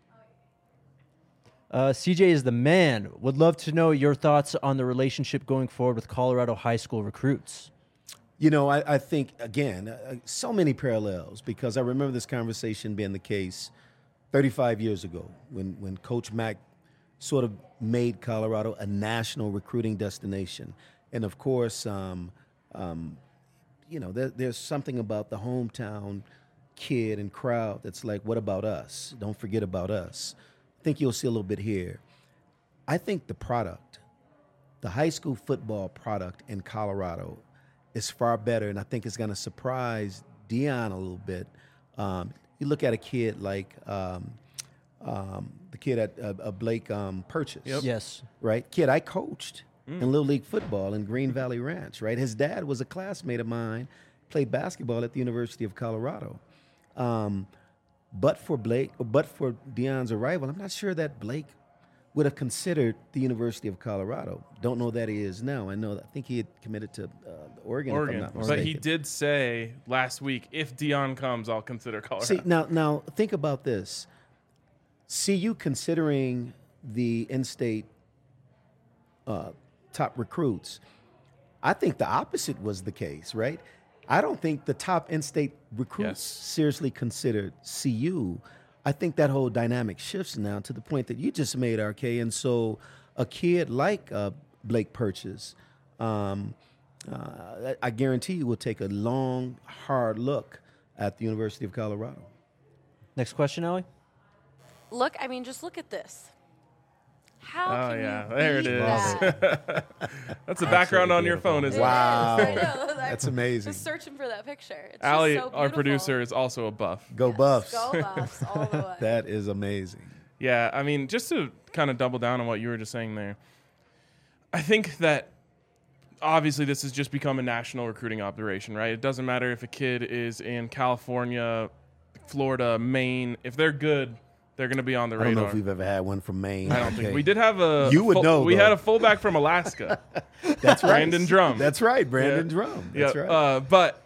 CJ is the man. Would love to know your thoughts on the relationship going forward with Colorado high school recruits. You know, I think, again, so many parallels, because I remember this conversation being the case 35 years ago when Coach Mack sort of made Colorado a national recruiting destination. And, of course, you know, there's something about the hometown kid and crowd that's like, what about us? Don't forget about us. I think you'll see a little bit here. I think the product, the high school football product in Colorado is far better, and I think it's going to surprise Dion a little bit. You look at a kid like the kid at Blake Purchase, Yes. right? Kid I coached in Little League football in Green Valley Ranch, right? His dad was a classmate of mine, played basketball at the University of Colorado. But for Dion's arrival, I'm not sure that Blake would have considered the University of Colorado. Don't know that he is now. I think he had committed to Oregon, if I'm not mistaken. But he did say last week, if Dion comes, I'll consider Colorado. See, now think about this. CU considering the in-state top recruits, I think the opposite was the case, right? I don't think the top in-state recruits seriously considered CU. I think that whole dynamic shifts now to the point that you just made, RK. And so a kid like Blake Purchase, I guarantee you will take a long, hard look at the University of Colorado. Next question, Allie. Look, I mean, just look at this. How can yeah, you there it beat is. that? That's the background on your phone, isn't it? Wow. I know. That's amazing. Just searching for that picture. It's Allie, just so our beautiful. producer, is also a Buff. Go Buffs. Go Buffs all the way. That is amazing. Yeah, I mean, just to kind of double down on what you were just saying there, I think that obviously this has just become a national recruiting operation, right? It doesn't matter if a kid is in California, Florida, Maine. If they're good, they're going to be on the I radar. don't know if we've ever had one from Maine. I don't think we did have a. You would know, We though. had a fullback from Alaska. That's right. Brandon Drum. That's right, Brandon Yeah. Drum. That's Yeah, right. but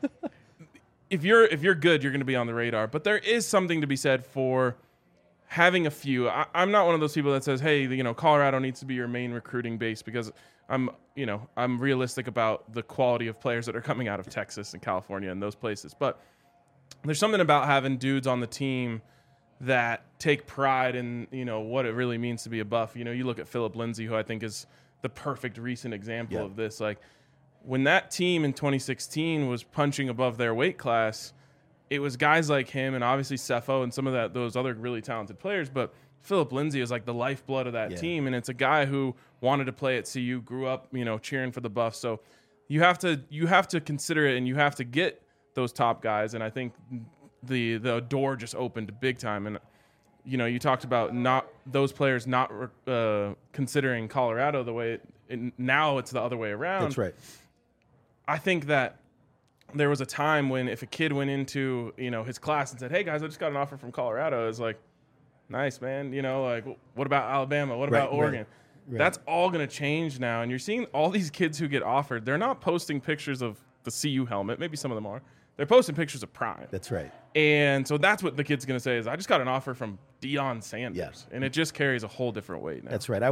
if you're good, you're going to be on the radar. But there is something to be said for having a few. I'm not one of those people that says, "Hey, Colorado needs to be your main recruiting base," because I'm realistic about the quality of players that are coming out of Texas and California and those places. But there's something about having dudes on the team that take pride in what it really means to be a Buff. You look at Philip Lindsay, who I think is the perfect recent example of this. Like when that team in 2016 was punching above their weight class, it was guys like him and obviously Cepho and some of those other really talented players. But Philip Lindsay is like the lifeblood of that team, and it's a guy who wanted to play at CU, grew up cheering for the Buffs. So you have to consider it, and you have to get those top guys. And I think the door just opened big time. And you talked about not those players not considering Colorado the way now it's the other way around. That's right. I think that there was a time when if a kid went into his class and said, "Hey guys, I just got an offer from Colorado," it's like, nice, man. Like, what about Alabama? What about Oregon? Right. That's all going to change now. And you're seeing all these kids who get offered. They're not posting pictures of the CU helmet. Maybe some of them are. They're posting pictures of Prime. That's right. And so that's what the kid's going to say is, I just got an offer from Deion Sanders. Yes. And it just carries a whole different weight now. That's right.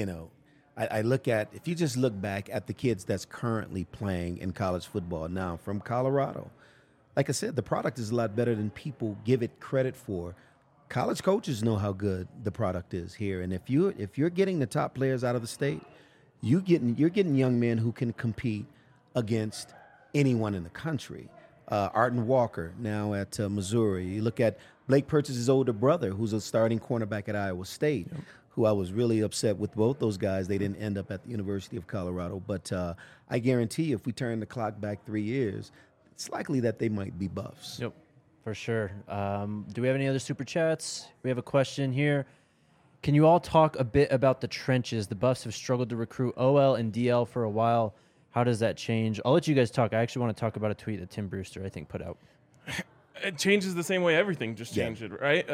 I look at, if you just look back at the kids that's currently playing in college football now from Colorado, like I said, the product is a lot better than people give it credit for. College coaches know how good the product is here, and if you're getting the top players out of the state, you're getting young men who can compete against anyone in the country. Arden Walker now at Missouri. You look at Blake Purchas's older brother, who's a starting cornerback at Iowa State, who I was really upset with both those guys. They didn't end up at the University of Colorado. But I guarantee you, if we turn the clock back 3 years, it's likely that they might be Buffs. Yep, for sure. Do we have any other super chats? We have a question here. Can you all talk a bit about the trenches? The Buffs have struggled to recruit OL and DL for a while. How does that change? I'll let you guys talk. I actually want to talk about a tweet that Tim Brewster, I think, put out. It changes the same way everything just changed, right?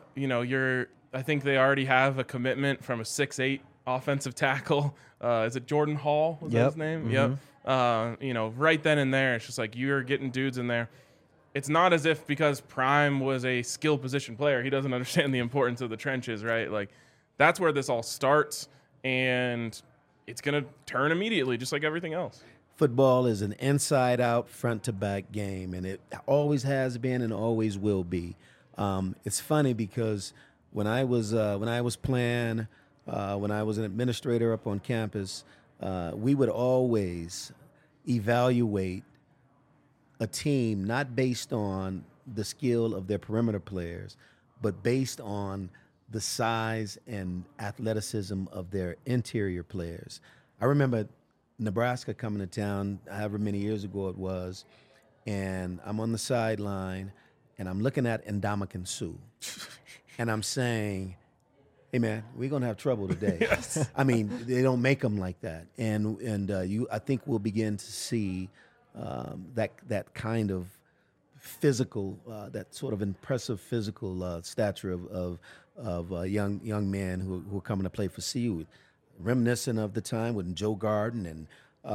I think they already have a commitment from a 6'8" offensive tackle. Is it Jordan Hall? Was that his name? Mm-hmm. Yep. Right then and there, it's just like you're getting dudes in there. It's not as if because Prime was a skill position player, he doesn't understand the importance of the trenches, right? Like, that's where this all starts, and it's going to turn immediately, just like everything else. Football is an inside-out, front-to-back game, and it always has been and always will be. It's funny because when I was playing, when I was an administrator up on campus, we would always evaluate a team not based on the skill of their perimeter players, but based on the size and athleticism of their interior players. I remember Nebraska coming to town, however many years ago it was, and I'm on the sideline, and I'm looking at Ndamukong Suh, and I'm saying, hey, man, we're going to have trouble today. Yes. I mean, they don't make them like that. And I think we'll begin to see that kind of physical, that sort of impressive physical stature of young men who are coming to play for CU, reminiscent of the time when Joe Garden and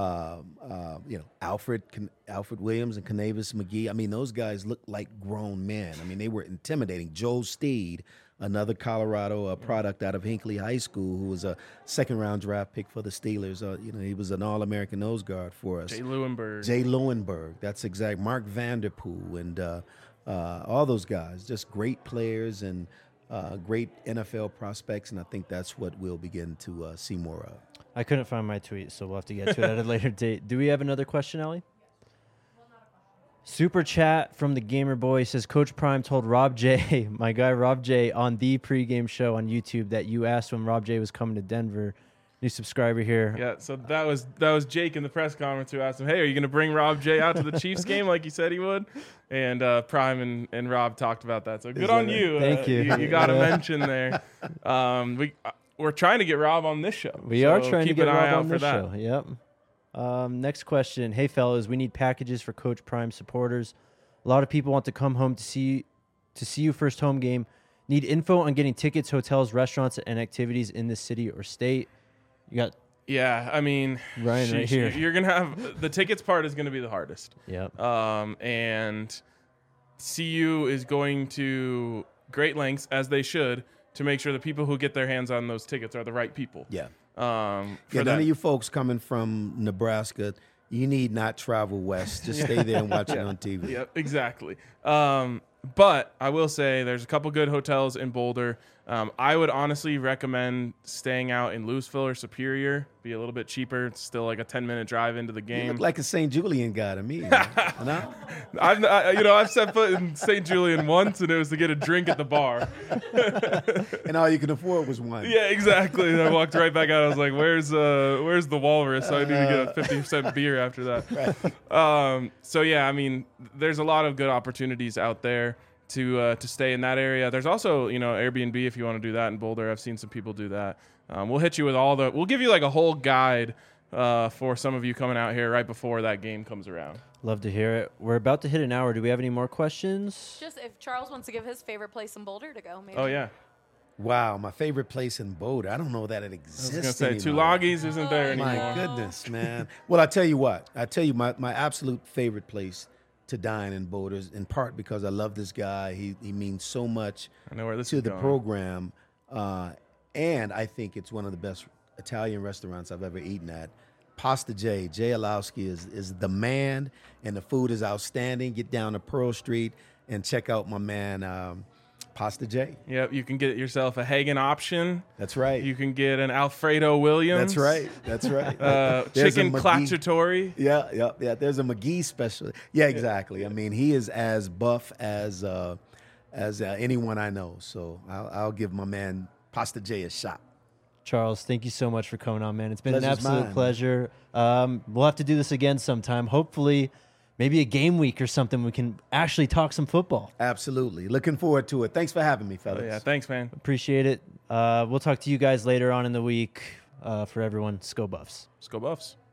Alfred Williams and Canavis McGee. I mean, those guys looked like grown men. I mean, they were intimidating. Joe Steed, another Colorado product out of Hinckley High School, who was a second-round draft pick for the Steelers. He was an All-American nose guard for us. Jay Lewenberg. That's exact. Mark Vanderpool and all those guys, just great players and great NFL prospects, and I think that's what we'll begin to see more of. I couldn't find my tweet, so we'll have to get to it at a later date. Do we have another question, Ellie? Super chat from the Gamer Boy says, Coach Prime told Rob J, my guy Rob J, on the pregame show on YouTube that you asked when Rob J was coming to Denver. New subscriber here. Yeah, so that was Jake in the press conference who asked him, hey, are you going to bring Rob J out to the Chiefs game like you said he would? And Prime and Rob talked about that. So good on you. Thank you. You got a mention there. We're trying to get Rob on this show. We are trying to get Keep an eye Rob out on for this that. show. Yep. Next question. Hey, fellas, we need packages for Coach Prime supporters. A lot of people want to come home to see you first home game. Need info on getting tickets, hotels, restaurants, and activities in the city or state. You got I mean, Ryan right here. You're gonna have the tickets part is gonna be the hardest. Yep. And CU is going to great lengths, as they should, to make sure the people who get their hands on those tickets are the right people. Yeah. None Of you folks coming from Nebraska, you need not travel west. Just stay there and watch it on TV. Yep, exactly. But I will say there's a couple good hotels in Boulder. I would honestly recommend staying out in Louisville or Superior. Be a little bit cheaper. It's still like a 10-minute drive into the game. You look like a St. Julian guy to me. No? I've set foot in St. Julian once, and it was to get a drink at the bar. And all you could afford was one. Yeah, exactly. And I walked right back out. I was like, "Where's the Walrus?" So I need to get a 50% beer after that. Right. So yeah, I mean, there's a lot of good opportunities out there to stay in that area. There's also Airbnb if you want to do that in Boulder. I've seen some people do that. We'll hit you with we'll give you like a whole guide for some of you coming out here right before that game comes around. Love to hear it. We're about to hit an hour. Do we have any more questions? Just if Charles wants to give his favorite place in Boulder to go, maybe. Oh yeah. Wow, my favorite place in Boulder. I don't know that it I exists was gonna say anymore. Tulagis isn't there anymore. My goodness, man. Well, I tell you what. My absolute favorite place to dine in Boulder is in part because I love this guy. He means so much I know where this to is the going. program, and I think it's one of the best Italian restaurants I've ever eaten at. Pasta J. Jay Alowski is the man, and the food is outstanding. Get down to Pearl Street and check out my man Pasta J. Yep, you can get yourself a Hagen option. That's right. You can get an Alfredo Williams. That's right. That's right. Chicken McGee. clacciatore. Yeah. There's a McGee special. Yeah, exactly. I mean, he is as buff as anyone I know. So I'll give my man Pasta J a shot. Charles, thank you so much for coming on, man. It's been Pleasure's an absolute mine. pleasure. We'll have to do this again sometime. Hopefully, maybe a game week or something. We can actually talk some football. Absolutely. Looking forward to it. Thanks for having me, fellas. Yeah, thanks, man. Appreciate it. We'll talk to you guys later on in the week. For everyone, Sco Buffs. Let's go Buffs.